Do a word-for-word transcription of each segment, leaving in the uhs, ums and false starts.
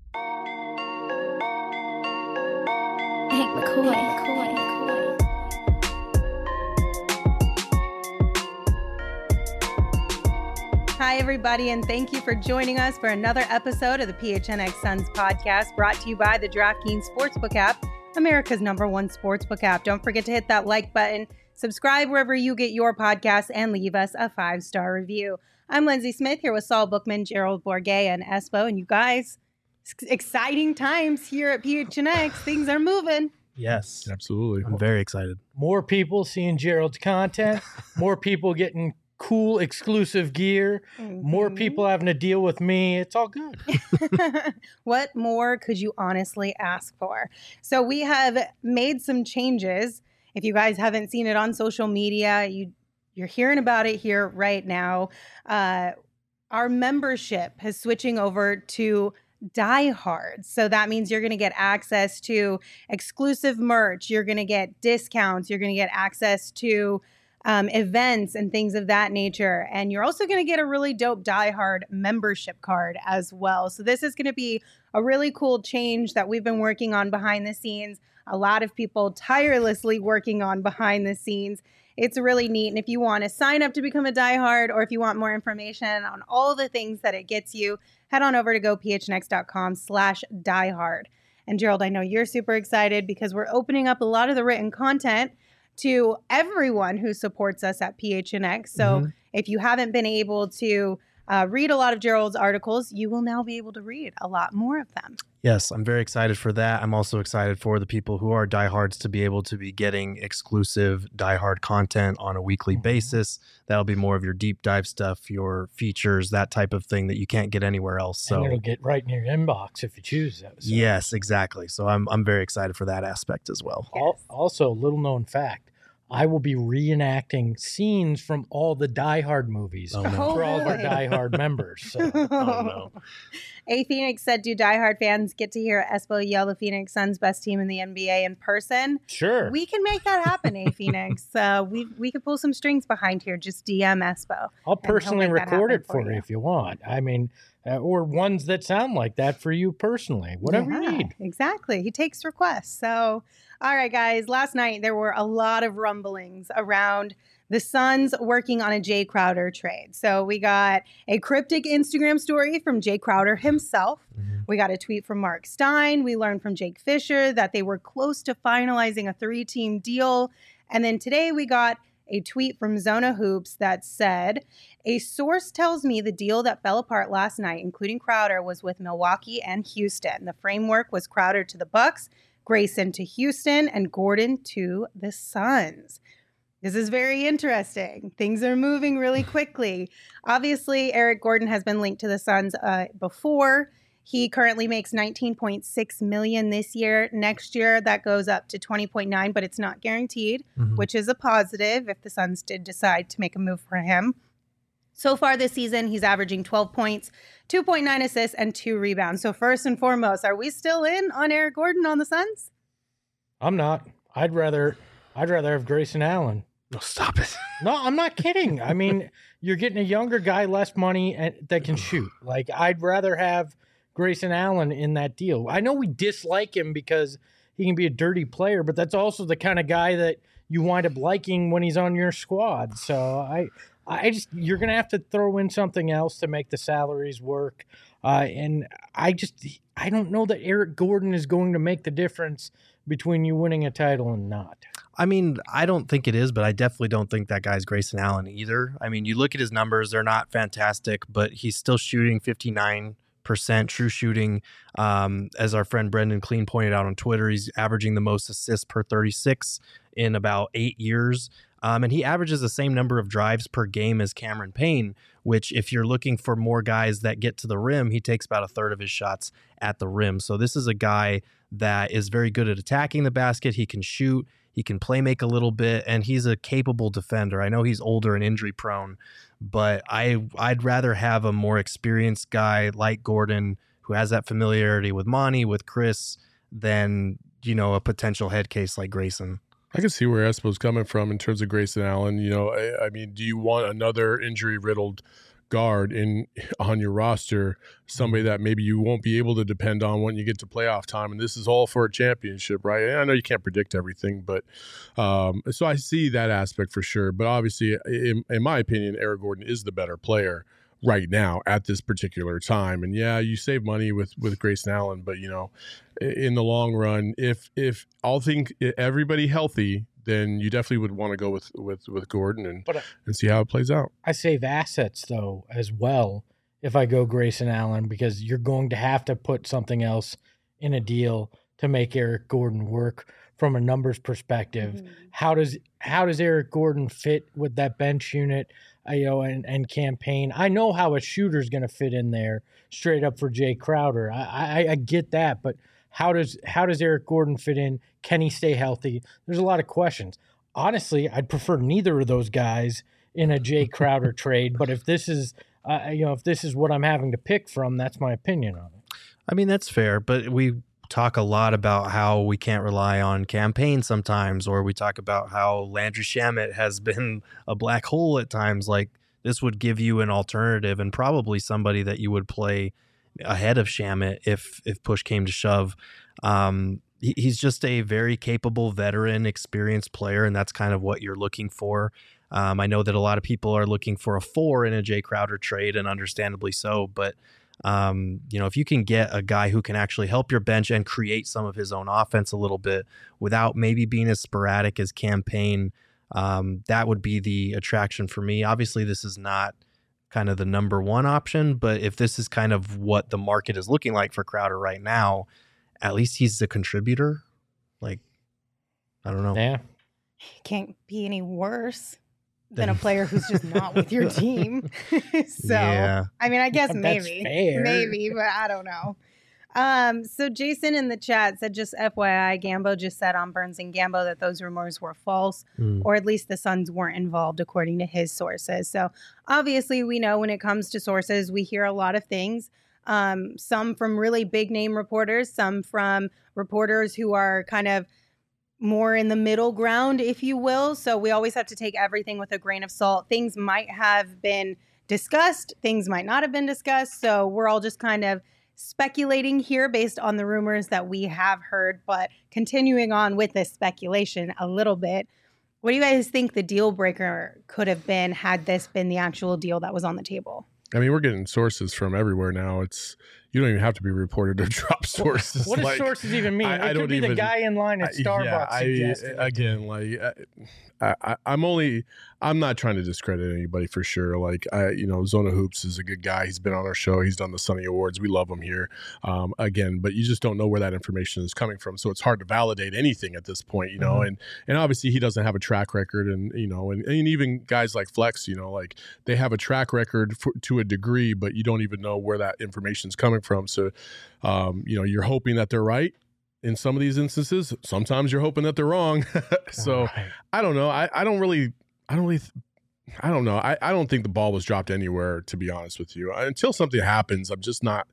Hank McCoy. McCoy. Hi, everybody, and thank you for joining us for another episode of the P H N X Suns podcast, brought to you by the DraftKings Sportsbook app, America's number one sportsbook app. Don't forget to hit that like button, subscribe wherever you get your podcasts, and leave us a five-star review. I'm Lindsay Smith here with Saul Bookman, Gerald Bourguet, and Espo. And you guys, exciting times here at P H N X. Things are moving. Yes. Absolutely. I'm very excited. More people seeing Gerald's content, more people getting cool exclusive gear, mm-hmm. more people having to deal with me. It's all good. What more could you honestly ask for? So we have made some changes. If you guys haven't seen it on social media, you, you're hearing about it here right now. Uh, our membership is switching over to Die Hard. So that means you're going to get access to exclusive merch. You're going to get discounts. You're going to get access to Um, events and things of that nature. And you're also going to get a really dope Die Hard membership card as well. So this is going to be a really cool change that we've been working on behind the scenes. A lot of people tirelessly working on behind the scenes. It's really neat. And if you want to sign up to become a Die Hard, or if you want more information on all the things that it gets you, head on over to gophnx.com slash diehard. And Gerald, I know you're super excited because we're opening up a lot of the written content to everyone who supports us at P H N X. So mm-hmm. if you haven't been able to uh, read a lot of Gerald's articles, you will now be able to read a lot more of them. Yes, I'm very excited for that. I'm also excited for the people who are diehards to be able to be getting exclusive diehard content on a weekly mm-hmm. basis. That'll be more of your deep dive stuff, your features, that type of thing that you can't get anywhere else. So and it'll get right in your inbox if you choose that. So. Yes, exactly. So I'm I'm very excited for that aspect as well. Yes. Also, little known fact, I will be reenacting scenes from all the Die Hard movies oh, no. for oh, all of our really? Die Hard members. So. oh, no. A Phoenix said, do Die Hard fans get to hear Espo yell the Phoenix Suns best team in the N B A in person? Sure. We can make that happen, A Phoenix. uh, we we could pull some strings behind here. Just D M Espo. I'll personally record it for you if you want. I mean, uh, or ones that sound like that for you personally, whatever yeah, you need. Exactly. He takes requests. So, all right, guys, last night there were a lot of rumblings around the Suns working on a Jay Crowder trade. So we got a cryptic Instagram story from Jay Crowder himself. Mm-hmm. We got a tweet from Mark Stein. We learned from Jake Fisher that they were close to finalizing a three-team deal. And then today we got a tweet from Zona Hoops that said, a source tells me the deal that fell apart last night, including Crowder, was with Milwaukee and Houston. The framework was Crowder to the Bucks, Grayson to Houston, and Gordon to the Suns. This is very interesting. Things are moving really quickly. Obviously, Eric Gordon has been linked to the Suns uh, before. He currently makes nineteen point six million dollars this year. Next year, that goes up to twenty point nine, but it's not guaranteed, mm-hmm. which is a positive if the Suns did decide to make a move for him. So far this season, he's averaging twelve points, two point nine assists, and two rebounds. So first and foremost, are we still in on Eric Gordon on the Suns? I'm not. I'd rather I'd rather have Grayson Allen. No, stop it. No, I'm not kidding. I mean, you're getting a younger guy, less money, and that can shoot. Like, I'd rather have Grayson Allen in that deal. I know we dislike him because he can be a dirty player, but that's also the kind of guy that you wind up liking when he's on your squad. So I, I just you're gonna have to throw in something else to make the salaries work. Uh, and I just I don't know that Eric Gordon is going to make the difference between you winning a title and not. I mean, I don't think it is, but I definitely don't think that guy's Grayson Allen either. I mean, you look at his numbers, they're not fantastic, but he's still shooting fifty-nine percent true shooting. Um, as our friend Brendan Clean pointed out on Twitter, he's averaging the most assists per thirty-six in about eight years. Um, and he averages the same number of drives per game as Cameron Payne, which if you're looking for more guys that get to the rim, he takes about a third of his shots at the rim. So this is a guy that is very good at attacking the basket. He can shoot, he can play make a little bit, and he's a capable defender. I know he's older and injury prone, but I, I'd rather have a more experienced guy like Gordon who has that familiarity with Monty, with Chris, than, you know, a potential head case like Grayson. I can see where Espo's coming from in terms of Grayson Allen. You know, I, I mean, do you want another injury-riddled guard in on your roster, somebody that maybe you won't be able to depend on when you get to playoff time. And this is all for a championship, right? And I know you can't predict everything, but um, so I see that aspect for sure. But obviously, in, in my opinion, Eric Gordon is the better player right now at this particular time. And yeah, you save money with with Grayson Allen, but you know, in the long run, if if all think everybody healthy, then you definitely would want to go with with with Gordon and But, uh, and see how it plays out. I save assets though as well if I go Grayson Allen, because you're going to have to put something else in a deal to make Eric Gordon work from a numbers perspective. Mhm. How does how does Eric Gordon fit with that bench unit, uh, you know, and, and campaign? I know how a shooter's going to fit in there straight up for Jay Crowder. I, I I get that, but how does how does Eric Gordon fit in? Can he stay healthy? There's a lot of questions. Honestly, I'd prefer neither of those guys in a Jay Crowder trade. But if this is uh, you know if this is what I'm having to pick from, that's my opinion on it. I mean, that's fair, but we talk a lot about how we can't rely on campaign sometimes, or we talk about how Landry Shamet has been a black hole at times. Like, this would give you an alternative and probably somebody that you would play ahead of Shamet if if push came to shove. Um, he, he's just a very capable veteran, experienced player, and that's kind of what you're looking for. Um, I know that a lot of people are looking for a four in a Jay Crowder trade, and understandably so, but Um, you know, if you can get a guy who can actually help your bench and create some of his own offense a little bit without maybe being as sporadic as campaign, um, that would be the attraction for me. Obviously, this is not kind of the number one option, but if this is kind of what the market is looking like for Crowder right now, at least he's a contributor. Like, I don't know. Yeah. Can't be any worse than a player who's just not with your team. So, Yeah. I mean, I guess That's maybe, fair. maybe, but I don't know. Um, so Jason in the chat said, just F Y I, Gambo just said on Burns and Gambo that those rumors were false, Mm. or at least the Suns weren't involved, according to his sources. So obviously, we know when it comes to sources, we hear a lot of things. Um, some from really big name reporters, some from reporters who are kind of more in the middle ground, if you will. So we always have to take everything with a grain of salt. Things might have been discussed, things might not have been discussed. So we're all just kind of speculating here based on the rumors that we have heard. But continuing on with this speculation a little bit, what do you guys think the deal breaker could have been had this been the actual deal that was on the table? I mean, we're getting sources from everywhere now. It's you don't even have to be reported to drop sources. What does like, sources even mean? I- it I could don't be even- the guy in line at I- Starbucks yeah, I, suggesting it. again, like I, I, I'm only, I'm not trying to discredit anybody for sure. Like I, you know, Zona Hoops is a good guy. He's been on our show. He's done the Sunny Awards. We love him here. Um, again, but you just don't know where that information is coming from. So it's hard to validate anything at this point, you know. Mhm. And and obviously he doesn't have a track record, and you know, and, and even guys like Flex, you know, like they have a track record for, to a degree, but you don't even know where that information is coming from. So, um, you know, you're hoping that they're right. In some of these instances, sometimes you're hoping that they're wrong. So Right. I don't know. I, I don't really, I don't really, th- I don't know. I, I don't think the ball was dropped anywhere, to be honest with you. I, until something happens, I'm just not,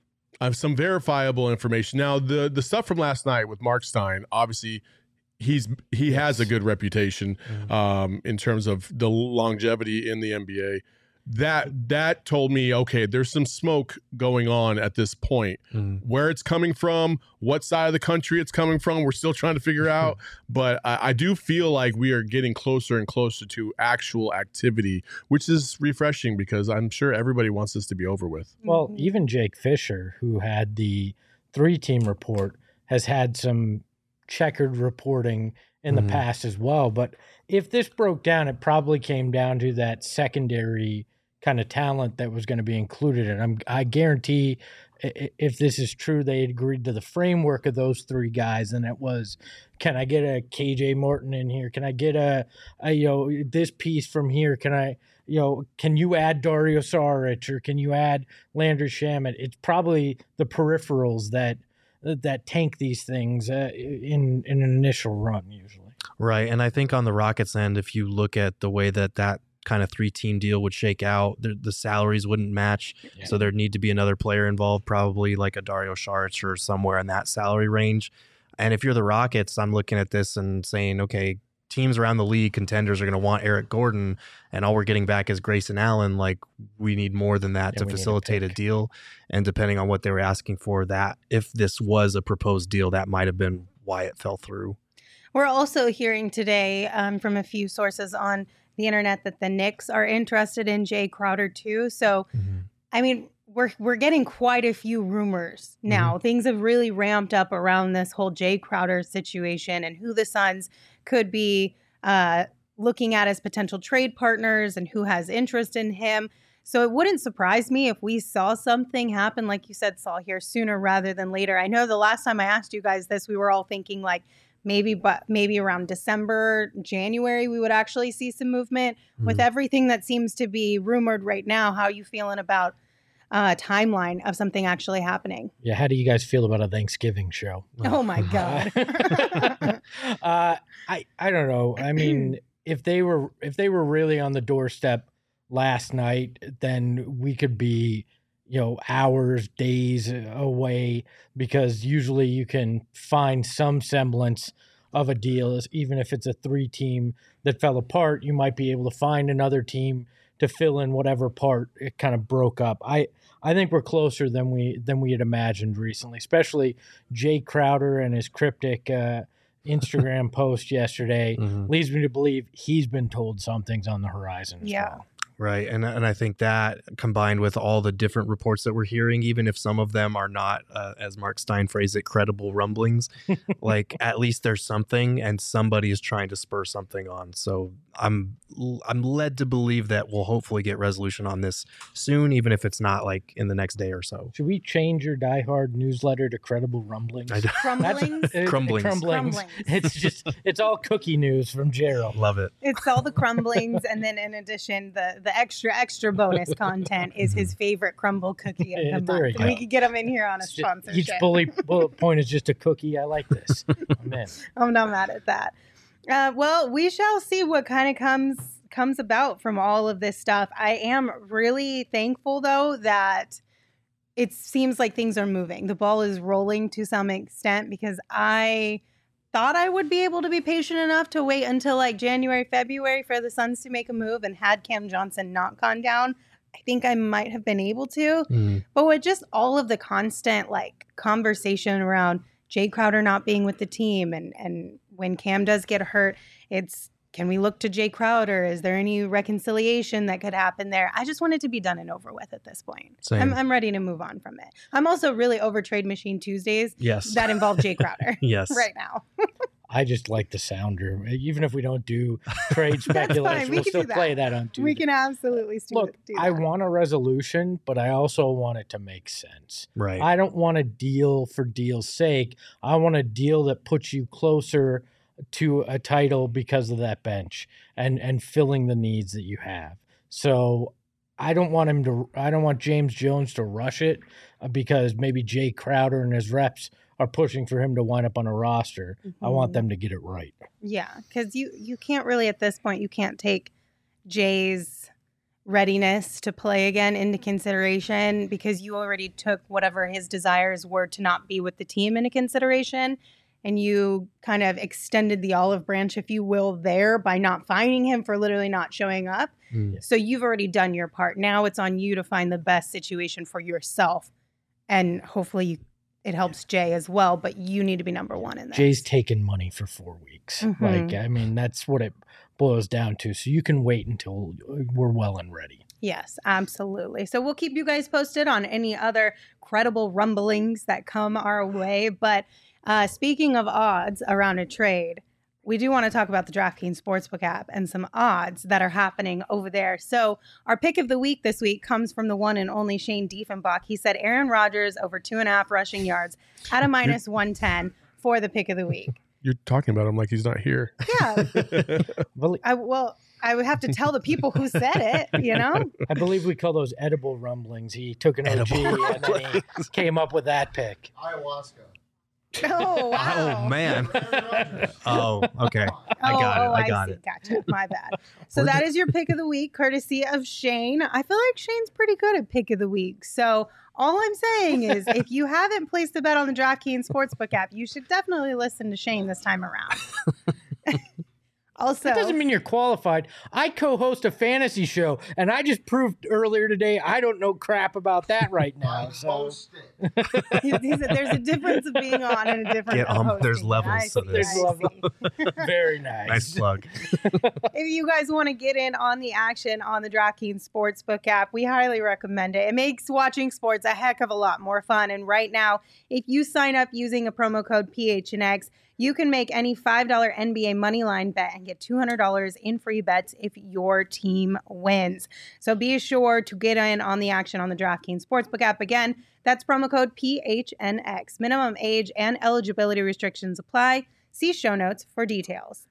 I have some verifiable information. Now, the the stuff from last night with Mark Stein, obviously he's, he has a good reputation Mhm. um, in terms of the longevity in the N B A. That that told me, okay, there's some smoke going on at this point. Mm. Where it's coming from, what side of the country it's coming from, we're still trying to figure out. But I, I do feel like we are getting closer and closer to actual activity, which is refreshing because I'm sure everybody wants this to be over with. Well, Mhm. even Jake Fisher, who had the three-team report, has had some checkered reporting in Mhm. the past as well. But if this broke down, it probably came down to that secondary kind of talent that was going to be included. And I'm, I guarantee i- i- if this is true, they agreed to the framework of those three guys. And it was, can I get a K J Morton in here? Can I get a, a you know, this piece from here? Can I, you know, can you add Dario Saric or can you add Landry Shamet? It's probably the peripherals that that tank these things uh, in in an initial run usually. Right. And I think on the Rockets end, if you look at the way that that kind of three team deal would shake out, the, the salaries wouldn't match. Yeah. So there'd need to be another player involved, probably like a Dario Saric or somewhere in that salary range. And if you're the Rockets, I'm looking at this and saying, okay, teams around the league, contenders, are going to want Eric Gordon, and all we're getting back is Grayson Allen, like we need more than that Yeah, to we need a facilitate a pick. deal. And depending on what they were asking for, that if this was a proposed deal, that might have been why it fell through. We're also hearing today um, from a few sources on the internet that the Knicks are interested in Jay Crowder too. So, Mm-hmm. I mean, we're we're getting quite a few rumors now. Things have really ramped up around this whole Jay Crowder situation and who the Suns could be uh, looking at as potential trade partners and who has interest in him. So it wouldn't surprise me if we saw something happen, like you said, Saul, here sooner rather than later. I know the last time I asked you guys this, we were all thinking like maybe, but maybe around December, January, we would actually see some movement. Mm-hmm. With everything that seems to be rumored right now, how are you feeling about uh, timeline of something actually happening? Yeah, how do you guys feel about a Thanksgiving show? Oh my God. uh, I I don't know. I mean, if they were if they were really on the doorstep last night, then we could be, you know, hours, days away, because usually you can find some semblance of a deal. Even if it's a three team that fell apart, you might be able to find another team to fill in whatever part it kind of broke up. I I think we're closer than we than we had imagined recently, especially Jay Crowder and his cryptic uh, Instagram post yesterday Mm-hmm. leads me to believe he's been told something's on the horizon as Yeah. well. Right. And and I think that combined with all the different reports that we're hearing, even if some of them are not, uh, as Mark Stein phrased it, credible rumblings, like at least there's something and somebody is trying to spur something on. So I'm I'm led to believe that we'll hopefully get resolution on this soon, even if it's not like in the next day or so. Should we change your Die Hard newsletter to credible rumblings? I Crumblings. Uh, Crumblings. crumblings. Crumblings. It's just it's all cookie news from Gerald. love it. It's all the crumblings, and then in addition, the the extra extra bonus content is his favorite crumble cookie of the Yeah, month. there we And go. we could get him in here on a It's just- sponsorship. each bullet, bullet point is just a cookie. I like this. I'm in. I'm not mad at that. Uh, well, we shall see what kind of comes comes about from all of this stuff. I am really thankful, though, that it seems like things are moving. The ball is rolling to some extent, because I thought I would be able to be patient enough to wait until like January, February for the Suns to make a move, and had Cam Johnson not gone down, I think I might have been able to. Mm. But with just all of the constant like conversation around Jay Crowder not being with the team, and and when Cam does get hurt, it's, can we look to Jay Crowder? Is there any reconciliation that could happen there? I just want it to be done and over with at this point. Same. I'm, I'm ready to move on from it. I'm also really over Trade Machine Tuesdays Yes. that involve Jay Crowder yes. right now. I just like the sounder. Even if we don't do trade fine. speculation, We we'll can still do that. play that on Tuesday. We can absolutely do, Look, do I that. want a resolution, but I also want it to make sense. Right. I don't want a deal for deal's sake. I want a deal that puts you closer to a title because of that bench and and filling the needs that you have. So I don't want him to. I don't want James Jones to rush it uh, because maybe Jay Crowder and his reps are pushing for him to wind up on a roster. I want Mhm. them to get it right. Yeah, because you you can't really at this point, you can't take Jay's readiness to play again into consideration, because you already took whatever his desires were to not be with the team into consideration, and you kind of extended the olive branch, if you will, there by not finding him, for literally not showing up. Mm. So you've already done your part. Now it's on you to find the best situation for yourself, and hopefully you, it helps Jay as well, but you need to be number one in this. Jay's taking money for four weeks. Mhm. Like, I mean, that's what it boils down to. So you can wait until we're well and ready. Yes, absolutely. So we'll keep you guys posted on any other credible rumblings that come our way. But uh, speaking of odds around a trade, we do want to talk about the DraftKings Sportsbook app and some odds that are happening over there. So our pick of the week this week comes from the one and only Shane Diefenbach. He said Aaron Rodgers over two and a half rushing yards at a minus one ten for the pick of the week. You're talking about him like he's not here. Yeah. Well, I, well, I would have to tell the people who said it, you know? I believe we call those edible rumblings. He took an O G Edible and then he came up with that pick. Ayahuasca. Oh, wow. Oh man. Oh, okay. I Oh, got it. oh, I got see. it. Gotcha. My bad. So We're that ju- is your pick of the week, courtesy of Shane. I feel like Shane's pretty good at pick of the week. So all I'm saying is, if you haven't placed a bet on the DraftKings Sportsbook app, you should definitely listen to Shane this time around. Also, That doesn't mean you're qualified. I co-host a fantasy show, and I just proved earlier today I don't know crap about that right now. So he, he said there's a difference of being on and a difference Get of on- hosting. there's levels I to see, this. I There's level. see. very nice. Nice plug. If you guys want to get in on the action on the DraftKings Sportsbook app, we highly recommend it. It makes watching sports a heck of a lot more fun. And right now, if you sign up using a promo code P H N X, you can make any five dollar N B A moneyline bet and get two hundred dollars in free bets if your team wins. So be sure to get in on the action on the DraftKings Sportsbook app. Again, that's promo code P H N X. Minimum age and eligibility restrictions apply. See show notes for details.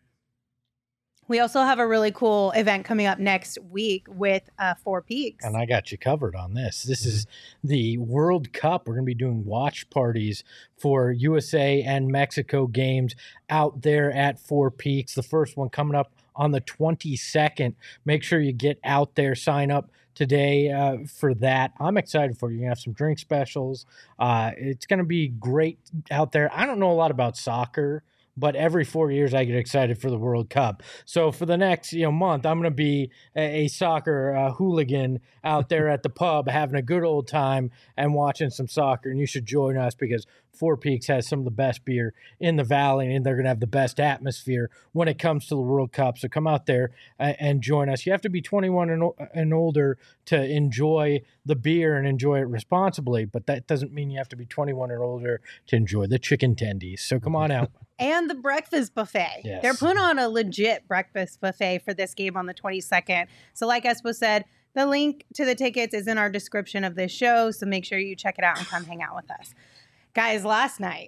We also have a really cool event coming up next week with uh, Four Peaks. And I got you covered on this. This is the World Cup. We're going to be doing watch parties for U S A and Mexico games out there at Four Peaks. The first one coming up on the twenty-second. Make sure you get out there, sign up today uh, for that. I'm excited for you. You're going to have some drink specials. Uh, it's going to be great out there. I don't know a lot about soccer, but every four years I get excited for the World Cup. So for the next you know month, I'm going to be a, a soccer uh, hooligan out there at the pub having a good old time and watching some soccer. And you should join us because Four Peaks has some of the best beer in the valley, and they're going to have the best atmosphere when it comes to the World Cup. So come out there uh, and join us. You have to be twenty-one and, and older to enjoy the beer and enjoy it responsibly, but that doesn't mean you have to be twenty-one or older to enjoy the chicken tendies. So come on out. And the breakfast buffet. Yes. They're putting on a legit breakfast buffet for this game on the twenty-second. So like Espo said, the link to the tickets is in our description of this show. So make sure you check it out and come hang out with us. Guys, last night,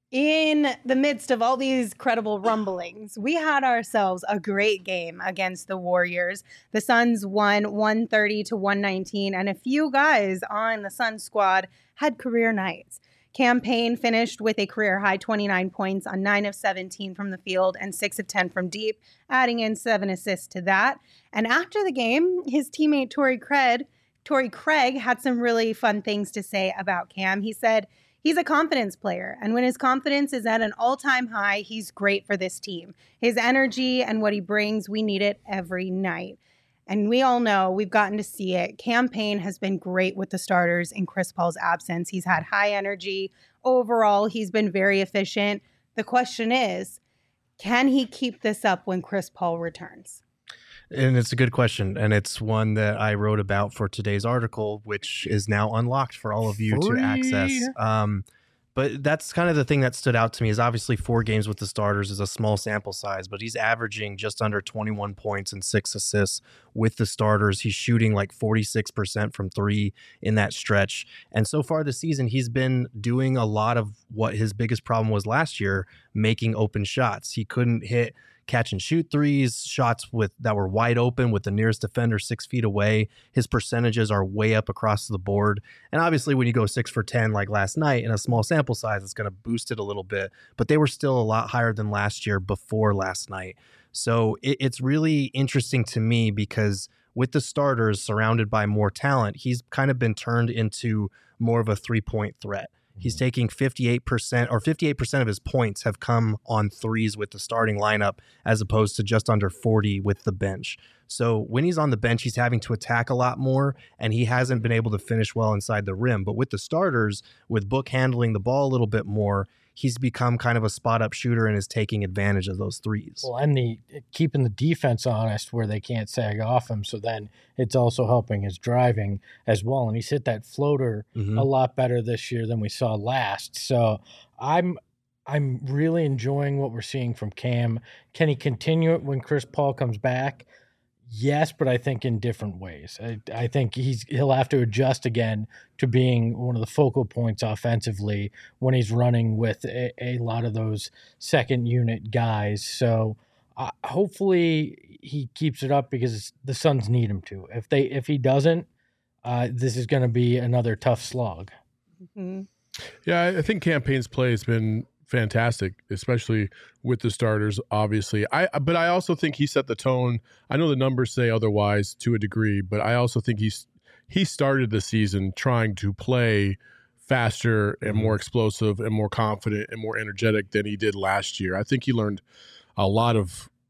in the midst of all these credible rumblings, we had ourselves a great game against the Warriors. The Suns won one thirty to one nineteen, and a few guys on the Suns squad had career nights. Cam Payne finished with a career-high twenty-nine points on nine of seventeen from the field and six of ten from deep, adding in seven assists to that. And after the game, his teammate Torrey Craig, Torrey Craig had some really fun things to say about Cam. He said, he's a confidence player, and when his confidence is at an all-time high, he's great for this team. His energy and what he brings, we need it every night. And we all know, we've gotten to see it. Cam Payne has been great with the starters in Chris Paul's absence. He's had high energy. Overall, he's been very efficient. The question is, can he keep this up when Chris Paul returns? And it's a good question. And it's one that I wrote about for today's article, which is now unlocked for all of you Free. to access. Um, but that's kind of the thing that stood out to me is obviously four games with the starters is a small sample size, but he's averaging just under twenty-one points and six assists with the starters. He's shooting like forty-six percent from three in that stretch. And so far this season, he's been doing a lot of what his biggest problem was last year, making open shots. He couldn't hit catch and shoot threes, shots with that were wide open with the nearest defender six feet away. His percentages are way up across the board. And obviously when you go six for ten like last night in a small sample size, it's going to boost it a little bit, but they were still a lot higher than last year before last night. So it, it's really interesting to me because with the starters surrounded by more talent, he's kind of been turned into more of a three-point threat. He's taking fifty-eight percent or fifty-eight percent of his points have come on threes with the starting lineup as opposed to just under forty with the bench. So when he's on the bench, he's having to attack a lot more and he hasn't been able to finish well inside the rim. But with the starters, with Book handling the ball a little bit more, he's become kind of a spot up shooter and is taking advantage of those threes. Well, and the keeping the defense honest where they can't sag off him. So then it's also helping his driving as well. And he's hit that floater Mm-hmm. a lot better this year than we saw last. So I'm I'm really enjoying what we're seeing from Cam. Can he continue it when Chris Paul comes back? Yes, but I think in different ways. I, I think he's he'll have to adjust again to being one of the focal points offensively when he's running with a, a lot of those second unit guys. So uh, hopefully he keeps it up because the Suns need him to. If they if he doesn't, uh, this is going to be another tough slog. Mm-hmm. Yeah, I think Cam Payne's play has been fantastic, especially with the starters, obviously. I but I also think he set the tone. I know the numbers say otherwise to a degree, but I also think he's he started the season trying to play faster and more explosive and more confident and more energetic than he did last year. I think he learned a lot of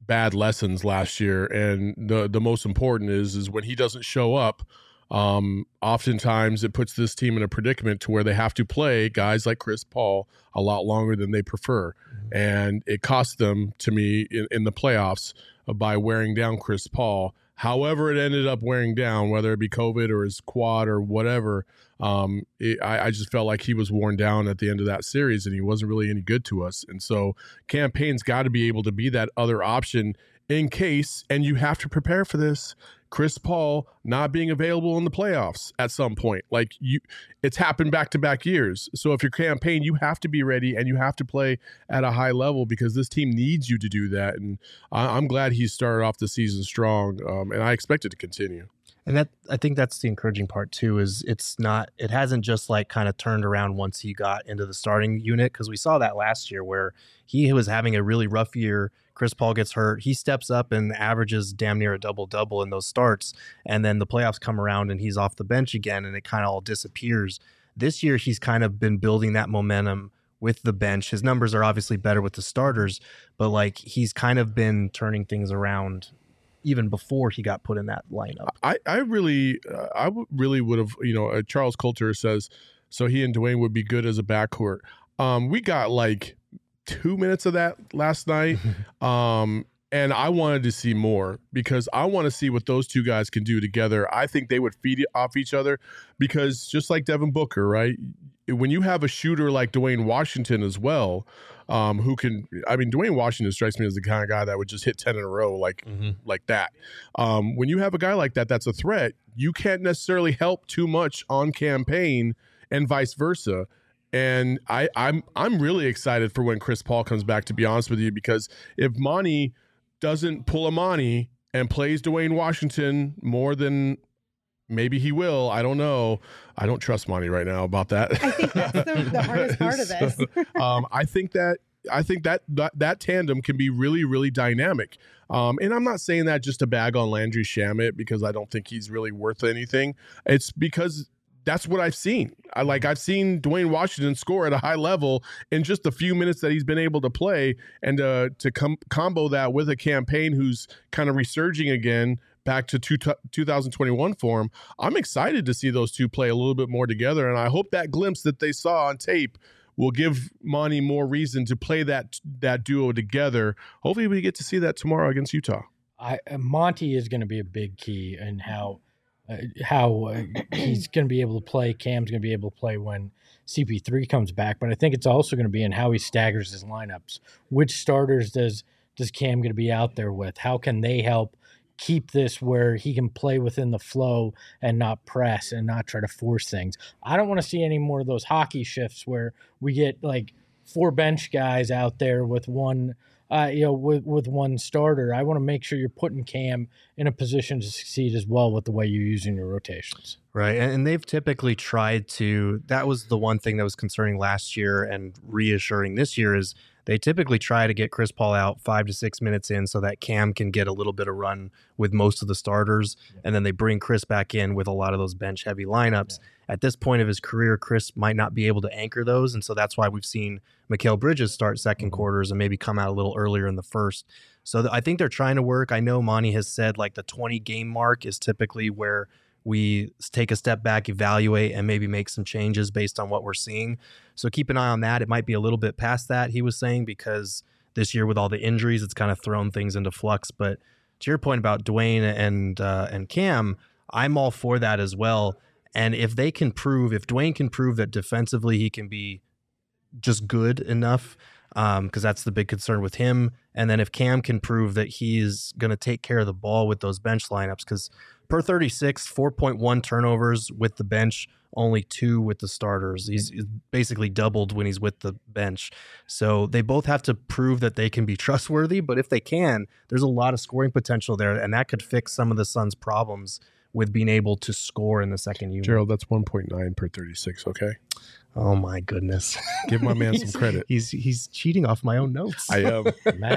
bad lessons last year, and the the most important is is when he doesn't show up. Um, oftentimes it puts this team in a predicament to where they have to play guys like Chris Paul a lot longer than they prefer. Mm-hmm. And it cost them, to me, in, in the playoffs uh, by wearing down Chris Paul. However it ended up wearing down, whether it be COVID or his quad or whatever, um, it, I, I just felt like he was worn down at the end of that series, and he wasn't really any good to us. And so Cam Payne's got to be able to be that other option in case, and you have to prepare for this, Chris Paul not being available in the playoffs at some point. Like you, it's happened back to back years. So if you're Cam Payne, you have to be ready and you have to play at a high level because this team needs you to do that. And I, I'm glad he started off the season strong, um, and I expect it to continue. And that, I think that's the encouraging part too, is it's not, it hasn't just like kind of turned around once he got into the starting unit. Cause we saw that last year where he was having a really rough year. Chris Paul gets hurt. He steps up and averages damn near a double double in those starts. And then the playoffs come around and he's off the bench again and it kind of all disappears. This year, he's kind of been building that momentum with the bench. His numbers are obviously better with the starters, but like he's kind of been turning things around even before he got put in that lineup. I, I really, uh, I w- really would have, you know, uh, Charles Coulter says, so he and Dwayne would be good as a backcourt. Um, we got like two minutes of that last night. um, and I wanted to see more because I want to see what those two guys can do together. I think they would feed off each other because just like Devin Booker, right? When you have a shooter like Dwayne Washington as well, um, who can, I mean, Dwayne Washington strikes me as the kind of guy that would just hit ten in a row like, mm-hmm. like that. Um, when you have a guy like that, that's a threat. You can't necessarily help too much on Cam Payne and vice versa. And I, I'm I'm really excited for when Chris Paul comes back, to be honest with you, because if Monty doesn't pull a Monty and plays Dwayne Washington more than maybe he will, I don't know. I don't trust Monty right now about that. I think that's the, the hardest part of this. so, um, I think that I think that, that that tandem can be really, really dynamic. Um, and I'm not saying that just to bag on Landry Shamet because I don't think he's really worth anything. It's because that's what I've seen. I like I've seen Dwayne Washington score at a high level in just a few minutes that he's been able to play, and uh, to com- combo that with a Cam Payne who's kind of resurging again back to two, two thousand twenty-one form. I'm excited to see those two play a little bit more together, and I hope that glimpse that they saw on tape will give Monty more reason to play that that duo together. Hopefully, we get to see that tomorrow against Utah. I Monty is going to be a big key in how. Uh, how uh, he's going to be able to play. Cam's going to be able to play when C P three comes back. But I think it's also going to be in how he staggers his lineups. Which starters does does Cam going to be out there with? How can they help keep this where he can play within the flow and not press and not try to force things? I don't want to see any more of those hockey shifts where we get like four bench guys out there with one Uh, you know, with, with one starter. I want to make sure you're putting Cam in a position to succeed as well with the way you're using your rotations. Right. And, and they've typically tried to, that was the one thing that was concerning last year and reassuring this year is they typically try to get Chris Paul out five to six minutes in so that Cam can get a little bit of run with most of the starters. Yeah. And then they bring Chris back in with a lot of those bench heavy lineups. Yeah. At this point of his career, Chris might not be able to anchor those. And so that's why we've seen Mikal Bridges start second mm-hmm. quarters and maybe come out a little earlier in the first. So th- I think they're trying to work. I know Monty has said like the twenty game mark is typically where we take a step back, evaluate, and maybe make some changes based on what we're seeing. So keep an eye on that. It might be a little bit past that, he was saying, because this year with all the injuries, it's kind of thrown things into flux. But to your point about Dwayne and uh, and Cam, I'm all for that as well. And if they can prove, if Dwayne can prove that defensively he can be just good enough, because um, that's the big concern with him. And then if Cam can prove that he's going to take care of the ball with those bench lineups, because per thirty-six, four point one turnovers with the bench, only two with the starters. He's, he's basically doubled when he's with the bench. So they both have to prove that they can be trustworthy, but if they can, there's a lot of scoring potential there, and that could fix some of the Suns' problems with being able to score in the second unit. Gerald, that's one point nine per thirty-six, okay? Oh, my goodness. Give my man some credit. He's he's cheating off my own notes. I am.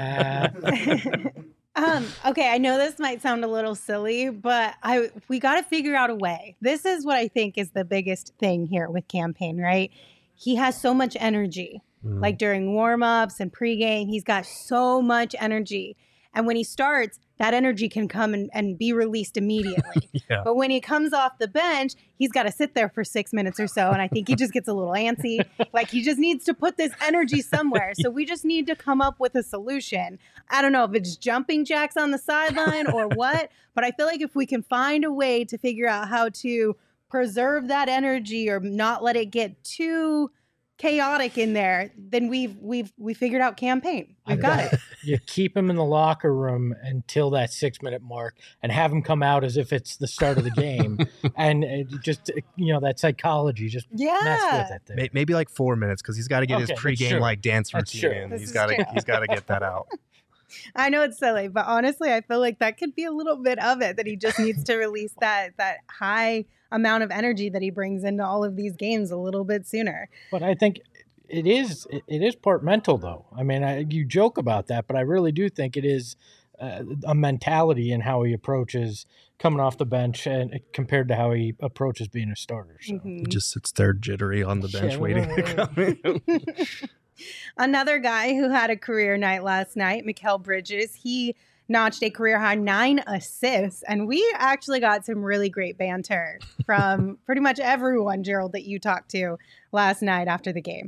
Math. um, okay, I know this might sound a little silly, but I we got to figure out a way. This is what I think is the biggest thing here with Cam Payne, right? He has so much energy. Mm. Like during warm-ups and pregame, he's got so much energy. And when he starts, that energy can come and, and be released immediately. Yeah. But when he comes off the bench, he's got to sit there for six minutes or so. And I think he just gets a little antsy. Like he just needs to put this energy somewhere. So we just need to come up with a solution. I don't know if it's jumping jacks on the sideline or what, but I feel like if we can find a way to figure out how to preserve that energy or not let it get too chaotic in there, then we've we've we figured out campaign. We've got it. You keep him in the locker room until that six minute mark and have him come out as if it's the start of the game. And it just, you know, that psychology, just mess Yeah. with it there. May- Maybe like four minutes because he's got to get Okay, his that's pregame true. like dance That's routine true. in. This He's is got to true. he's got to get that out. I know it's silly, but honestly, I feel like that could be a little bit of it, that he just needs to release that that high amount of energy that he brings into all of these games a little bit sooner. But I think it is it it is part mental, though. I mean, I, you joke about that, but I really do think it is uh, a mentality in how he approaches coming off the bench and compared to how he approaches being a starter. So. Mhm. He just sits there jittery on the bench Yeah. waiting to come in. Another guy who had a career night last night, Mikal Bridges, he notched a career high nine assists. And we actually got some really great banter from pretty much everyone, Gerald, that you talked to last night after the game.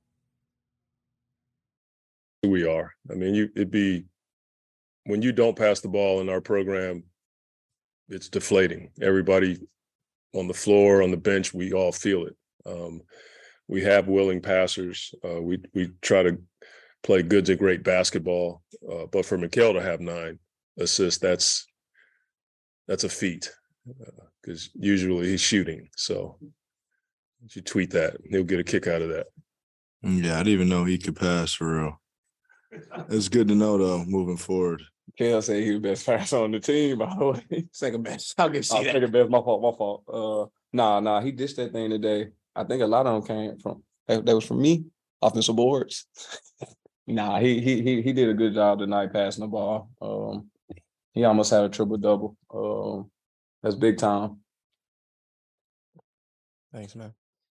We are. I mean, you it'd be when you don't pass the ball in our program, it's deflating. Everybody on the floor, on the bench, we all feel it. Um, we have willing passers. Uh, we we try to play good to great basketball, uh, but for Mikal to have nine assists, that's that's a feat because uh, usually he's shooting. So if you tweet that, he'll get a kick out of that. Yeah, I didn't even know he could pass for real. It's good to know though, moving forward. Kale said he was best passer on the team, by the way. Second best. I'll give you Oh, that. second best, my fault, my fault. Uh, nah, nah, he dished that thing today. I think a lot of them came from that, that was from me, offensive boards. nah, he he he he did a good job tonight passing the ball. Um, he almost had a triple double. Um, that's big time. Thanks, man.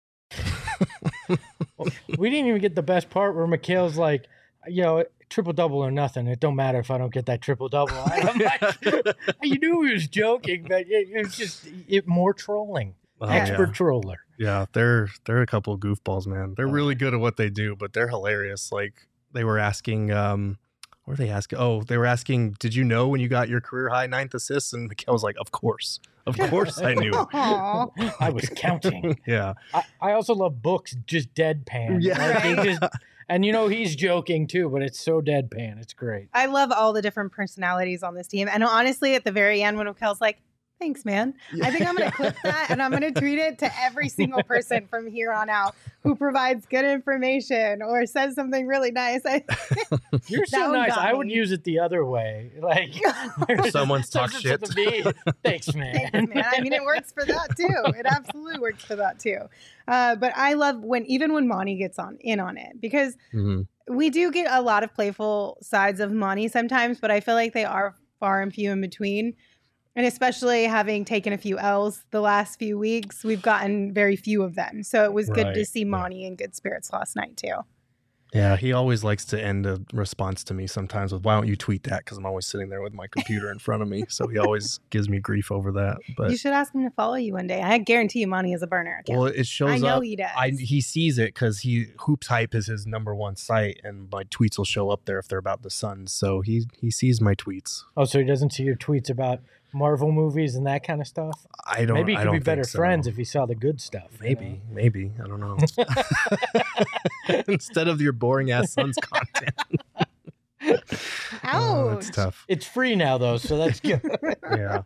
We didn't even get the best part where Mikhail's like, you know, triple double or nothing. It don't matter if I don't get that triple double. I'm like, you knew he was joking, but it, it was just it, more trolling. Oh, Expert yeah. troller. Yeah, they're they're a couple of goofballs, man. They're really good at what they do, but they're hilarious. Like they were asking, um, what were they asking? Oh, they were asking, did you know when you got your career high ninth assists? And Mikal was like, of course, of course I knew. Aw. I was counting. Yeah, I, I also love books just deadpan. Yeah. Like, they just, and you know he's joking too, but it's so deadpan. It's great. I love all the different personalities on this team. And honestly, at the very end, when Mikel's like, thanks, man. I think I'm going to clip that and I'm going to tweet it to every single person from here on out who provides good information or says something really nice. I, You're That so one nice. got I would me. use it the other way. Like Someone's talk says shit. to me, thanks, man. Thanks, man. I mean, it works for that too. It absolutely works for that too. Uh, but I love when, even when Monty gets on in on it, because Mhm. we do get a lot of playful sides of Monty sometimes, but I feel like they are far and few in between. And especially having taken a few L's the last few weeks, we've gotten very few of them. So it was good to Right, see yeah. Monty in good spirits last night too. Yeah, he always likes to end a response to me sometimes with, why don't you tweet that? Because I'm always sitting there with my computer in front of me. So he always gives me grief over that. But You should ask him to follow you one day. I guarantee you Monty is a burner account. well, it shows I know up. he does. I, he sees it because he Hoops Hype is his number one site, and my tweets will show up there if they're about the Suns. So he he sees my tweets. Oh, so he doesn't see your tweets about Marvel movies and that kind of stuff? I don't. Maybe he I could don't be think better so. friends if he saw the good stuff. you Maybe, maybe I don't know. Instead of your boring ass Suns content. Oh, Ouch. it's tough. know? It's free now, though, so that's good. Yeah.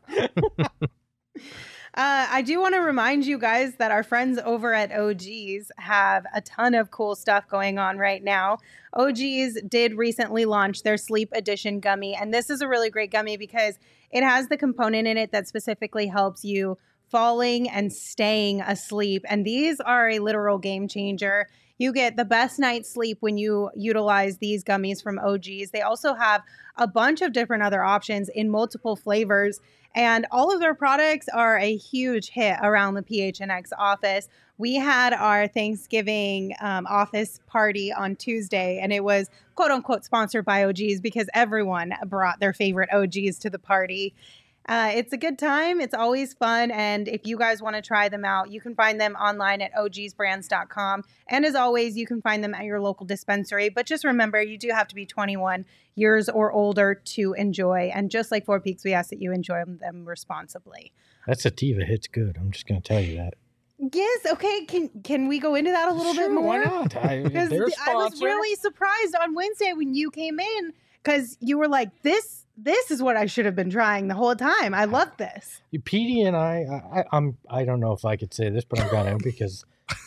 Uh, I do want to remind you guys that our friends over at O G's have a ton of cool stuff going on right now. O G's did recently launch their Sleep Edition gummy, and this is a really great gummy because it has the component in it that specifically helps you falling and staying asleep. And these are a literal game changer. You get the best night's sleep when you utilize these gummies from O G's. They also have a bunch of different other options in multiple flavors. And all of their products are a huge hit around the P H N X office. We had our Thanksgiving um, office party on Tuesday, and it was quote unquote sponsored by O G's because everyone brought their favorite O G's to the party. Uh, it's a good time. It's always fun. And if you guys want to try them out, you can find them online at O Gs brands dot com. And as always, you can find them at your local dispensary. But just remember, you do have to be twenty-one years or older to enjoy. And just like Four Peaks, we ask that you enjoy them responsibly. That sativa hits good. I'm just going to tell you that. Yes. Okay. Can can we go into that a little Sure, bit more? why not? I, Because they're a I was sponsor. really surprised on Wednesday when you came in because you were like, this this is what I should have been trying the whole time. I love this. You, Petey and I, I, I'm, I don't know if I could say this, but I'm going to because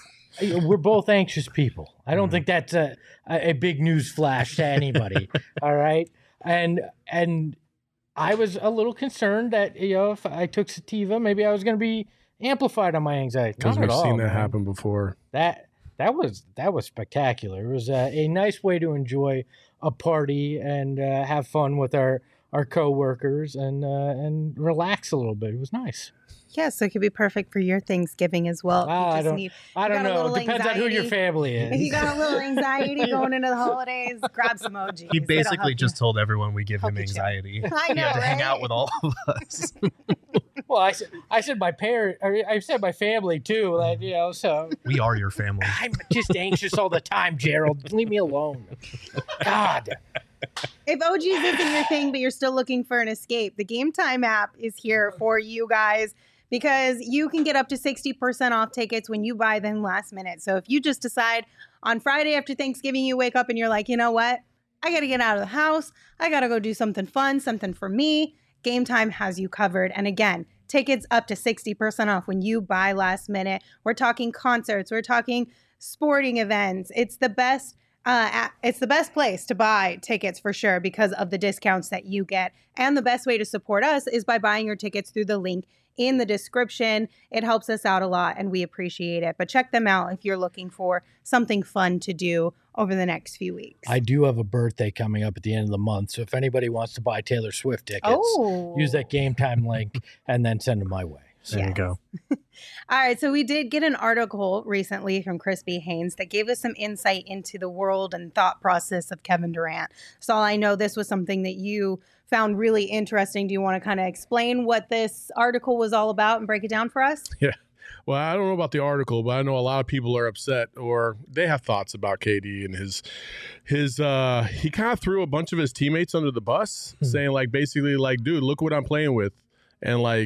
we're both anxious people. I don't think that's a, a, a big news flash to anybody. All right. And, and I was a little concerned that, you know, if I took sativa, maybe I was going to be amplified on my anxiety. Because Not we've at all, seen that man. happen before. That, that was, that was spectacular. It was a, a nice way to enjoy a party and uh, have fun with our, our coworkers and uh, and relax a little bit. It was nice. Yeah, so it could be perfect for your Thanksgiving as well. Ah, You I just don't- need- I you don't got a know. little It depends on who your anxiety. family If you is. got a little anxiety going into the holidays, grab some O Gs. He It'll basically help just you. told everyone we give Help him you chill. anxiety. I He know, had to hang right? out with all of us. Well, I said I said my parent. I I said my family too. Like, you know, so We are your family. I'm just anxious all the time, Gerald. Leave me alone. God. If O Gs isn't your thing, but you're still looking for an escape, the Game Time app is here for you guys because you can get up to sixty percent off tickets when you buy them last minute. So if you just decide on Friday after Thanksgiving, you wake up and you're like, you know what? I got to get out of the house. I got to go do something fun, something for me. Game Time has you covered. And again, tickets up to sixty percent off when you buy last minute. We're talking concerts. We're talking sporting events. It's the best. Uh, a- it's the best place to buy tickets for sure because of the discounts that you get. And the best way to support us is by buying your tickets through the link in the description. It helps us out a lot and we appreciate it. But check them out if you're looking for something fun to do over the next few weeks. I do have a birthday coming up at the end of the month. So if anybody wants to buy Taylor Swift tickets, oh, use that Game Time link and then send them my way. There Yes. you go. All right, so we did get an article recently from Crispy Haynes that gave us some insight into the world and thought process of Kevin Durant. So I know this was something that you found really interesting. Do you want to kind of explain what this article was all about and break it down for us? Well, I don't know about the article, but I know a lot of people are upset or they have thoughts about K D and his his uh he kind of threw a bunch of his teammates under the bus, Hmm. saying like basically like, dude, look what I'm playing with. And like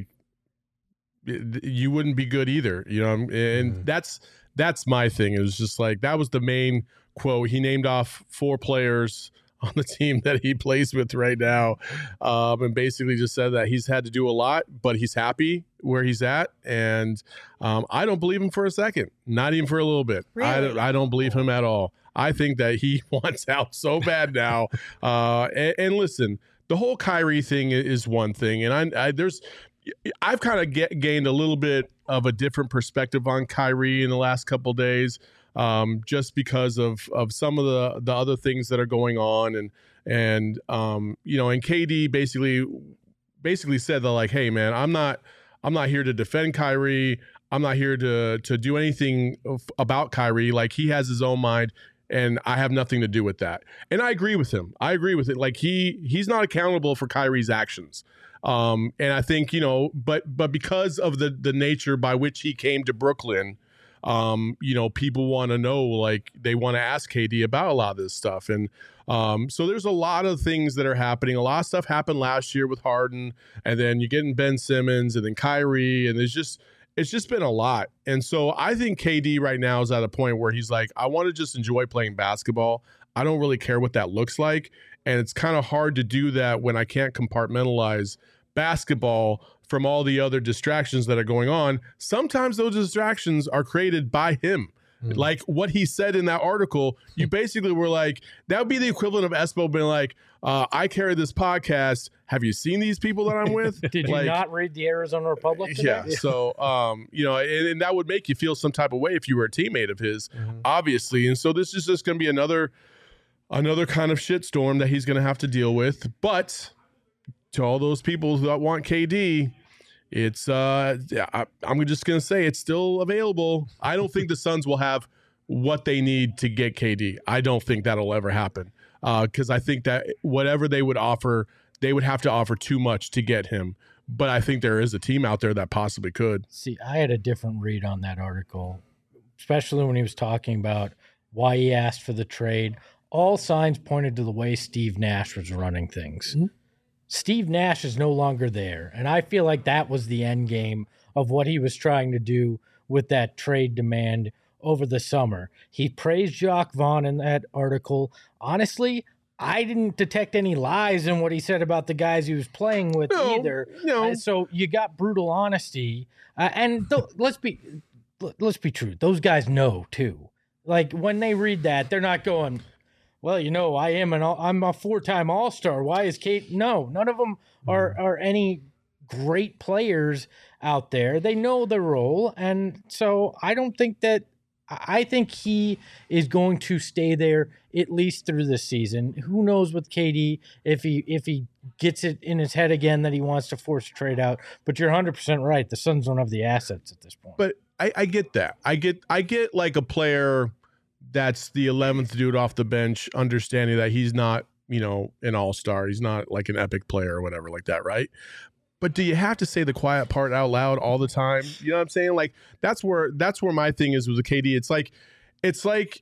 y- you wouldn't be good either, you know. And Mhm. that's that's my thing. It was just like that was the main quote. He named off four players on the team that he plays with right now, um, and basically just said that he's had to do a lot, but he's happy where he's at. And um, I don't believe him for a second, not even for a little bit. I, Really? don't- I don't believe him at all. I think that he wants out so bad now. Uh, and, and listen, the whole Kyrie thing i- is one thing, and I, I there's I've kind of get, gained a little bit of a different perspective on Kyrie in the last couple of days. Um, just because of of some of the the other things that are going on, and and um, you know, and K D basically basically said that like, hey man, I'm not I'm not here to defend Kyrie. I'm not here to to do anything of- about Kyrie. Like he has his own mind, and I have nothing to do with that. And I agree with him. I agree with it. Like he he's not accountable for Kyrie's actions. Um, and I think you know, but but because of the the nature by which he came to Brooklyn. Um, you know, people want to know, like they want to ask K D about a lot of this stuff. And um, so there's a lot of things that are happening. A lot of stuff happened last year with Harden, and then you're getting Ben Simmons and then Kyrie, and there's just, it's just been a lot. And so I think K D right now is at a point where he's like, I want to just enjoy playing basketball. I don't really care what that looks like. And it's kind of hard to do that when I can't compartmentalize basketball from all the other distractions that are going on. Sometimes those distractions are created by him. Mm. Like what he said in that article, you basically were like, that would be the equivalent of Espo being like, uh, I carry this podcast. Have you seen these people that I'm with? Did like, you not read the Arizona Republic today? Yeah. So, um, you know, and, and that would make you feel some type of way if you were a teammate of his, mm-hmm. obviously. And so this is just going to be another, another kind of shitstorm that he's going to have to deal with. But to all those people that want K D, it's uh, I, I'm just going to say it's still available. I don't think the Suns will have what they need to get K D. I don't think that'll ever happen because uh, I think that whatever they would offer, they would have to offer too much to get him. But I think there is a team out there that possibly could. See, I had a different read on that article, especially when he was talking about why he asked for the trade. All signs pointed to the way Steve Nash was running things. Mm-hmm. Steve Nash is no longer there, and I feel like that was the end game of what he was trying to do with that trade demand over the summer. He praised Jacques Vaughn in that article. Honestly, I didn't detect any lies in what he said about the guys he was playing with no, either. No. Uh, so you got brutal honesty, uh, and th- let's be let's be true. Those guys know too. Like when they read that, they're not going, well, you know, I am an all, I'm a four-time All-Star. Why is Kate? No, none of them are are any great players out there. They know their role, and so I don't think that. I think he is going to stay there at least through this season. Who knows with K D if he if he gets it in his head again that he wants to force a trade out. But you're one hundred percent right. The Suns don't have the assets at this point. But I, I get that. I get I get like a player that's the eleventh dude off the bench, understanding that he's not, you know, an all-star. He's not like an epic player or whatever like that, right? But do you have to say the quiet part out loud all the time? You know what I'm saying? Like that's where that's where my thing is with the K D. It's like it's like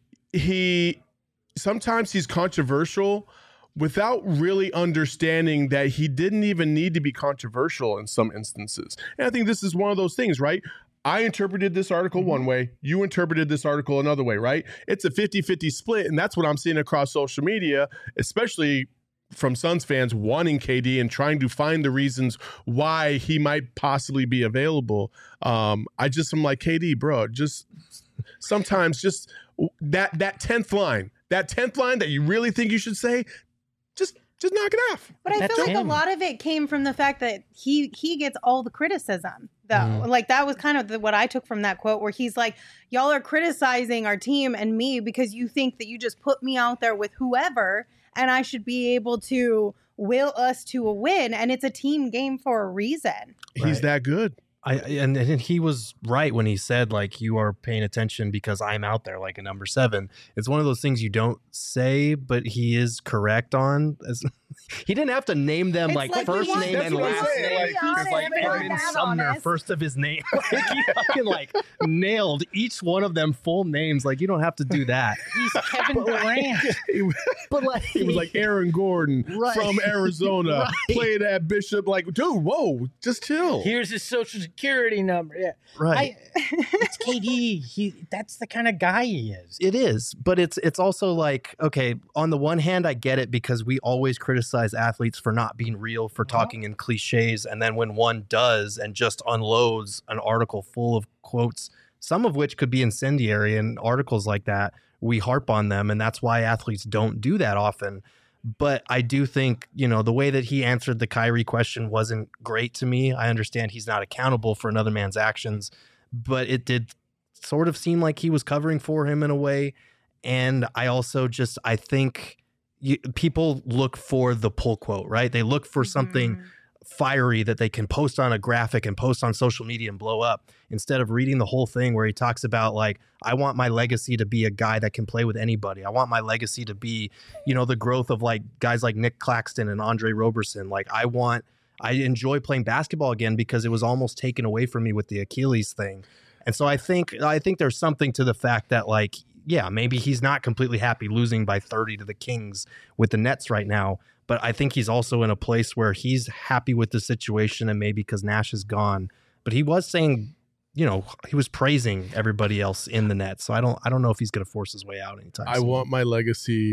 he sometimes he's controversial without really understanding that he didn't even need to be controversial in some instances. And I think this is one of those things, right? I interpreted this article mm-hmm. one way. You interpreted this article another way, right? It's a fifty-fifty split, and that's what I'm seeing across social media, especially from Suns fans wanting K D and trying to find the reasons why he might possibly be available. Um, I just am like, K D, bro, just sometimes just that that tenth line, that tenth line that you really think you should say, just just knock it off. But I That's feel like him. a lot of it came from the fact that he he gets all the criticism, though. Mm. Like that was kind of the, what I took from that quote, where he's like, y'all are criticizing our team and me because you think that you just put me out there with whoever and I should be able to will us to a win. And it's a team game for a reason. He's right. that good. I and, and he was right when he said, like, you are paying attention because I'm out there like a number seven. It's one of those things you don't say, but he is correct on. As, he didn't have to name them It's like, like first he name wants and to be last honest. name. Be honest. It's like Be Edmund that Sumner, honest. first of his name. Like, he fucking like nailed each one of them full names. Like, you don't have to do that. He's Kevin Durant. But like, He was like Aaron Gordon Right. from Arizona, Right. played at Bishop. Like, dude, whoa, just chill. Here's his social security number. Yeah, right. I, it's K D. He that's the kind of guy he is. It is, but it's it's also like, okay, on the one hand, I get it because we always criticize athletes for not being real, for talking in cliches, and then when one does and just unloads an article full of quotes, some of which could be incendiary, and articles like that, we harp on them, and that's why athletes don't do that often. But I do think, you know, the way that he answered the Kyrie question wasn't great to me. I understand he's not accountable for another man's actions, but it did sort of seem like he was covering for him in a way. And I also just, I think you, people look for the pull quote, right? They look for something Mhm. fiery that they can post on a graphic and post on social media and blow up, instead of reading the whole thing where he talks about, like, I want my legacy to be a guy that can play with anybody. I want my legacy to be, you know, the growth of like guys like Nick Claxton and Andre Roberson. Like, I want, I enjoy playing basketball again because it was almost taken away from me with the Achilles thing. And so I think, I think there's something to the fact that, like, yeah, maybe he's not completely happy losing by thirty to the Kings with the Nets right now. But I think he's also in a place where he's happy with the situation, and maybe because Nash is gone. But he was saying, you know, he was praising everybody else in the Nets. So I don't I don't know if he's going to force his way out anytime I soon. want my legacy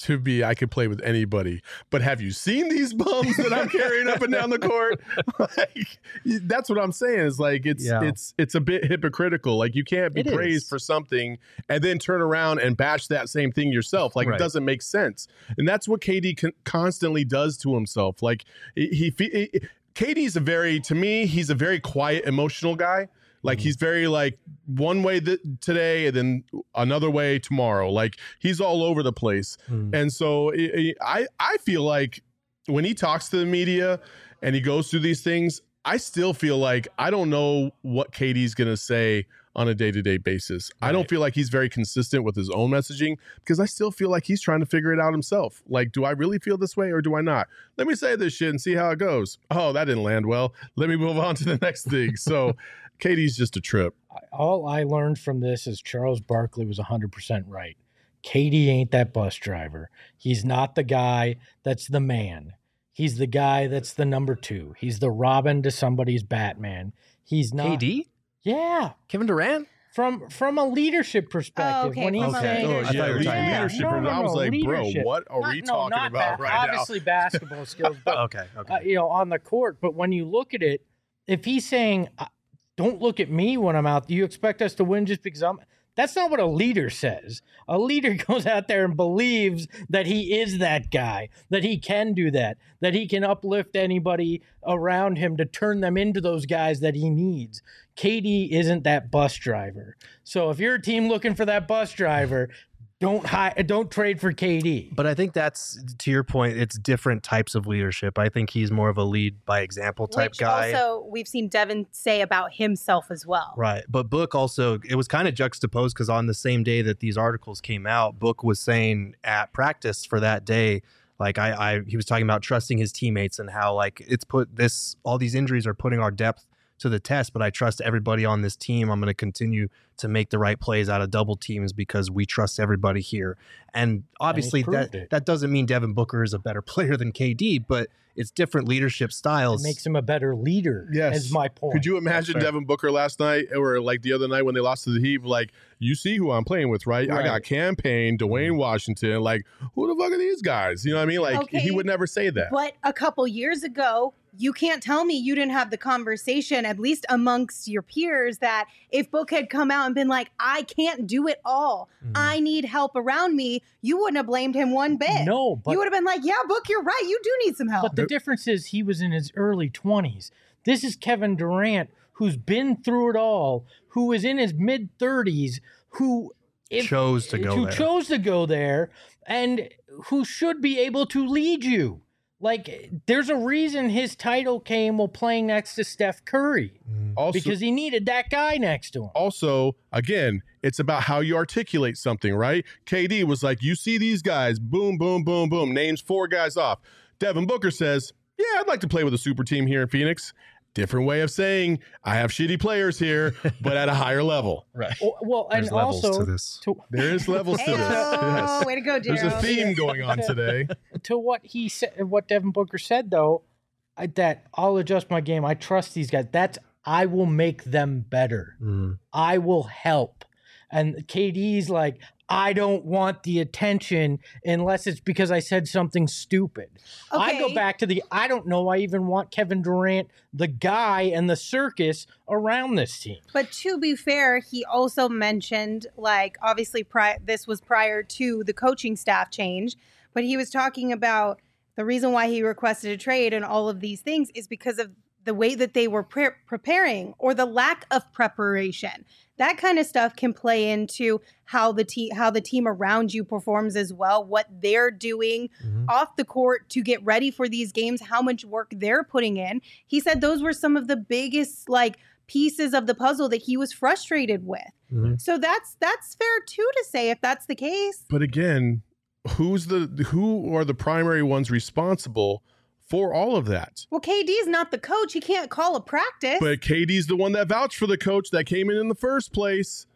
to be I could play with anybody. But have you seen these bums that I'm carrying up and down the court? Like, that's what I'm saying. Is like it's Yeah. it's it's a bit hypocritical. Like you can't be It praised is. for something and then turn around and bash that same thing yourself. Like Right. it doesn't make sense. And that's what K D con- constantly does to himself. Like he, he, he K D's a very to me he's a very quiet, emotional guy. Like Mhm. he's very like one way th- today and then another way tomorrow. Like he's all over the place. Mm. And so I, I I feel like when he talks to the media and he goes through these things, I still feel like I don't know what K D's going to say on a day-to-day basis. I don't Right. feel like he's very consistent with his own messaging because I still feel like he's trying to figure it out himself. Like, do I really feel this way or do I not? Let me say this shit and see how it goes. Oh, that didn't land well. Let me move on to the next thing. So K D's just a trip. All I learned from this is Charles Barkley was one hundred percent right. K D ain't that bus driver. He's not the guy that's the man. He's the guy that's the number two. He's the Robin to somebody's Batman. He's not. K D? Yeah. Kevin Durant? From from a leadership perspective. Oh, okay, When he's from a saying, Oh, I thought you yeah, were lead- talking about- leadership. No, and no, I was no, like, leadership. bro, what are Not- we no, talking not about ba- right now? Obviously basketball skills, but Okay, okay. uh, you know, on the court. But when you look at it, if he's saying, uh, "Don't look at me when I'm out," do you expect us to win just because I'm? That's not what a leader says. A leader goes out there and believes that he is that guy, that he can do that, that he can uplift anybody around him to turn them into those guys that he needs. K D isn't that bus driver. So if you're a team looking for that bus driver, don't hi- don't trade for K D. But I think that's, to your point, it's different types of leadership. I think he's more of a lead by example type Which guy. also we've seen Devin say about himself as well. Right. But Book also, it was kind of juxtaposed because on the same day that these articles came out, Book was saying at practice for that day, like I, I he was talking about trusting his teammates and how like it's put this, all these injuries are putting our depth to the test, but I trust everybody on this team. I'm going to continue to make the right plays out of double teams because we trust everybody here. And obviously proved that, it. that doesn't mean Devin Booker is a better player than K D, but it's different leadership It styles. makes him a better leader. Yes. Is my point. Could you imagine fair. Devin Booker last night or like the other night when they lost to the Heat? Like, you see who I'm playing with, right? I Right. got Cam Payne, Dwayne Washington. Like, who the fuck are these guys? You know what I mean? Like, Okay, he would never say that. But a couple years ago, you can't tell me you didn't have the conversation, at least amongst your peers, that if Book had come out and been like, I can't do it all, Mhm. I need help around me, you wouldn't have blamed him one bit. No, but you would have been like, yeah, Book, you're right. You do need some help. But the difference is he was in his early twenties. This is Kevin Durant, who's been through it all, who is in his mid thirties, who if, chose to go who there. chose to go there, and who should be able to lead you. Like, there's a reason his title came while playing next to Steph Curry Mm. Also, because he needed that guy next to him. also, again, it's about how you articulate something, right? K D was like, you see these guys, boom, boom, boom, boom, names four guys off. Devin Booker says, yeah, I'd like to play with a super team here in Phoenix. Different way of saying I have shitty players here, but at a higher level. Right. Well, well, and There's levels also to this. to, There is levels to this. Heyo, Yes. way to go, There's Gerald. a theme going on today. to what he said, what Devin Booker said, though, I, that I'll adjust my game. I trust these guys. That's I will make them better. Mm. I will help. And K D's like, I don't want the attention unless it's because I said something stupid. I go Okay. back to the I don't know. I even want Kevin Durant, the guy and the circus around this team. But to be fair, he also mentioned, like, obviously, pri- this was prior to the coaching staff change, but he was talking about the reason why he requested a trade and all of these things is because of the way that they were pre- preparing or the lack of preparation. That kind of stuff can play into how the team how the team around you performs as well, what they're doing Mhm. off the court to get ready for these games, how much work they're putting in. He said those were some of the biggest like pieces of the puzzle that he was frustrated with. Mhm. So that's that's fair too to say if that's the case. But again, who's the who are the primary ones responsible for all of that? Well, K D's not the coach. He can't call a practice. But K D's the one that vouched for the coach that came in in the first place.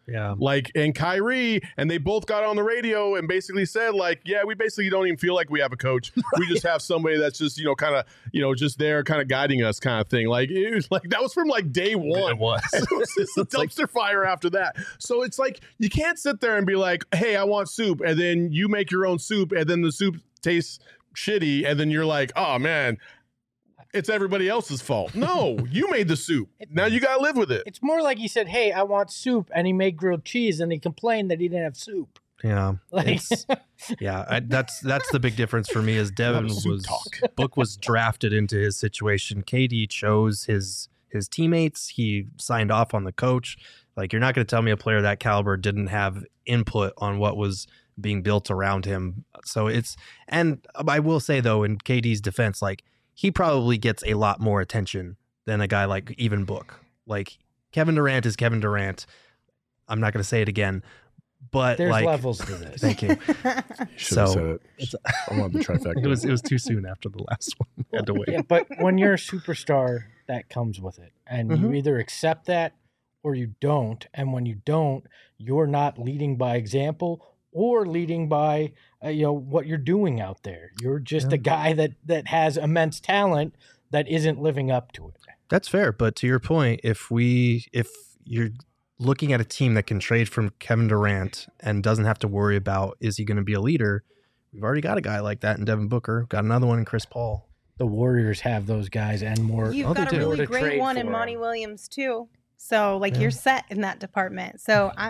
Yeah. Like, and Kyrie, and they both got on the radio and basically said, like, yeah, we basically don't even feel like we have a coach. Right. We just have somebody that's just, you know, kind of, you know, just there kind of guiding us kind of thing. Like, it was like, that was from like day one. It was. It was just a dumpster like, fire after that. So it's like, you can't sit there and be like, hey, I want soup. And then you make your own soup and then the soup tastes shitty. And then you're like, oh man, it's everybody else's fault. No, you made the soup. Now you got to live with it. It's more like he said, hey, I want soup. And he made grilled cheese and he complained that he didn't have soup. Yeah. Like, yeah. I, that's that's the big difference for me is Devin was Book was drafted into his situation. K D chose his his teammates. He signed off on the coach. Like, you're not going to tell me a player that caliber didn't have input on what was being built around him. So it's, and I will say though, in K D's defense, like, he probably gets a lot more attention than a guy like even Book. Like, Kevin Durant is Kevin Durant. I'm not going to say it again, but there's like, levels to this. Thank you. You should have So, said it. I wanted the trifecta. It was it was too soon after the last one. I had to wait. Yeah, but when you're a superstar, that comes with it. And Mhm. you either accept that or you don't. And when you don't, you're not leading by example or leading by uh, you know what you're doing out there. You're just Yeah. a guy that that has immense talent that isn't living up to it. That's fair, but to your point, if we if you're looking at a team that can trade from Kevin Durant and doesn't have to worry about is he going to be a leader, we've already got a guy like that in Devin Booker. Got another one in Chris Paul. The Warriors have those guys and more. You've Oh, they got a do. really to great trade one in for Monty him. Williams too. So like Yeah. you're set in that department. So I,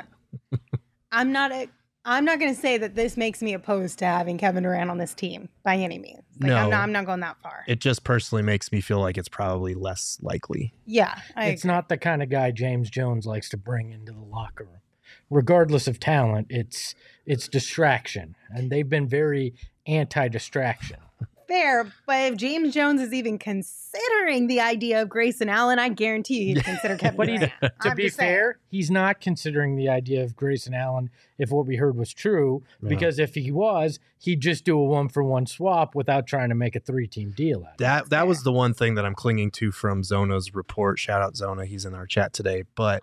I'm not a, I'm not going to say that this makes me opposed to having Kevin Durant on this team by any means. Like, No. I'm not. I'm not going that far. It just personally makes me feel like it's probably less likely. yeah, I It's agree. not the kind of guy James Jones likes to bring into the locker room. Regardless of talent, it's it's distraction. And they've been very anti-distraction. fair. But if James Jones is even considering the idea of Grayson Allen, I guarantee you he'd consider Kevin But he's, Durant. to I'm be just saying. fair, he's not considering the idea of Grayson Allen if what we heard was true, Yeah. because if he was, he'd just do a one-for-one swap without trying to make a three-team deal out of it. That that was the one thing that I'm clinging to from Zona's report. Shout out Zona, he's in our chat today. But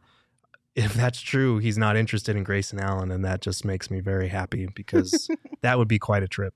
if that's true, he's not interested in Grayson Allen, and that just makes me very happy because that would be quite a trip.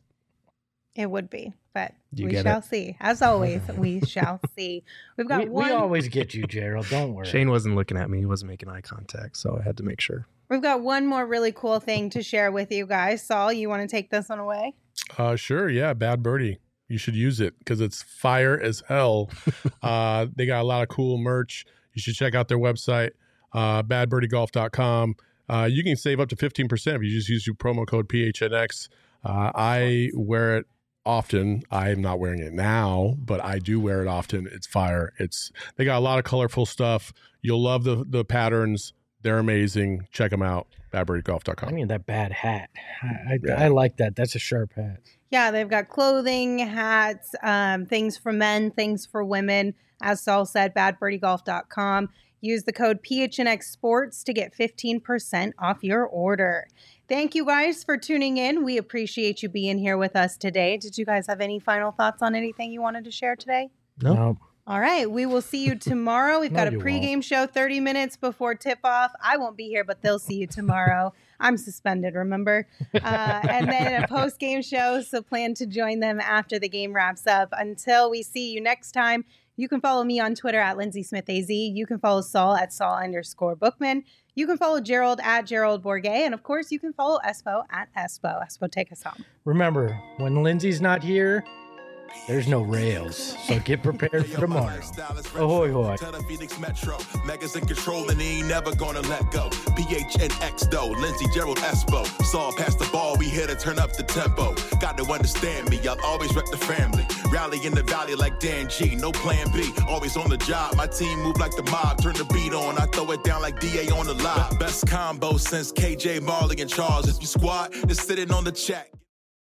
It would be, but You we get shall it? see. As always, we shall see. We've got We, one. we always get you, Gerald. Don't worry. Shane wasn't looking at me; he wasn't making eye contact, so I had to make sure. We've got one more really cool thing to share with you guys. Saul, you want to take this one away? Uh, sure. Yeah. Bad Birdie. You should use it because it's fire as hell. uh, they got a lot of cool merch. You should check out their website, uh, bad birdie golf dot com. Uh, you can save up to fifteen percent if you just use your promo code P H N X. Uh, I wear it often. I'm not wearing it now, but I do wear it often. It's fire. It's they got a lot of colorful stuff. You'll love the the patterns. They're amazing. Check them out. bad birdie golf dot I com. mean, that bad hat. I, I, Yeah. I like that. That's a sharp hat. Yeah, they've got clothing, hats, um, things for men, things for women. As Saul said, bad birdie golf dot com. Use the code P H N X Sports to get fifteen percent off your order. Thank you guys for tuning in. We appreciate you being here with us today. Did you guys have any final thoughts on anything you wanted to share today? Nope. No. All right, we will see you tomorrow. We've No, got a you pregame show thirty minutes before tip-off. I won't be here, but they'll see you tomorrow. I'm suspended, remember? Uh, and then a post-game show, so plan to join them after the game wraps up. Until we see you next time, you can follow me on Twitter at Lindsay Smith A Z. You can follow Saul at Saul underscore Bookman. You can follow Gerald at Gerald Bourget. And, of course, you can follow Espo at Espo. Espo, take us home. Remember, when Lindsay's not here, there's no rails. So get prepared for tomorrow. Ahoy, hoy. Tell the Phoenix Metro, Megas in control and he ain't never gonna let go. P H N X though, Lindsay, Gerald, Espo. Saw past the ball, we here to turn up the tempo. Got to understand me, I'll always wreck the family. Rally in the valley like Dan G, no plan B. Always on the job, my team move like the mob. Turn the beat on, I throw it down like D A on the live. Best combo since K J, Marley, and Charles. If you squad, just sitting on the check.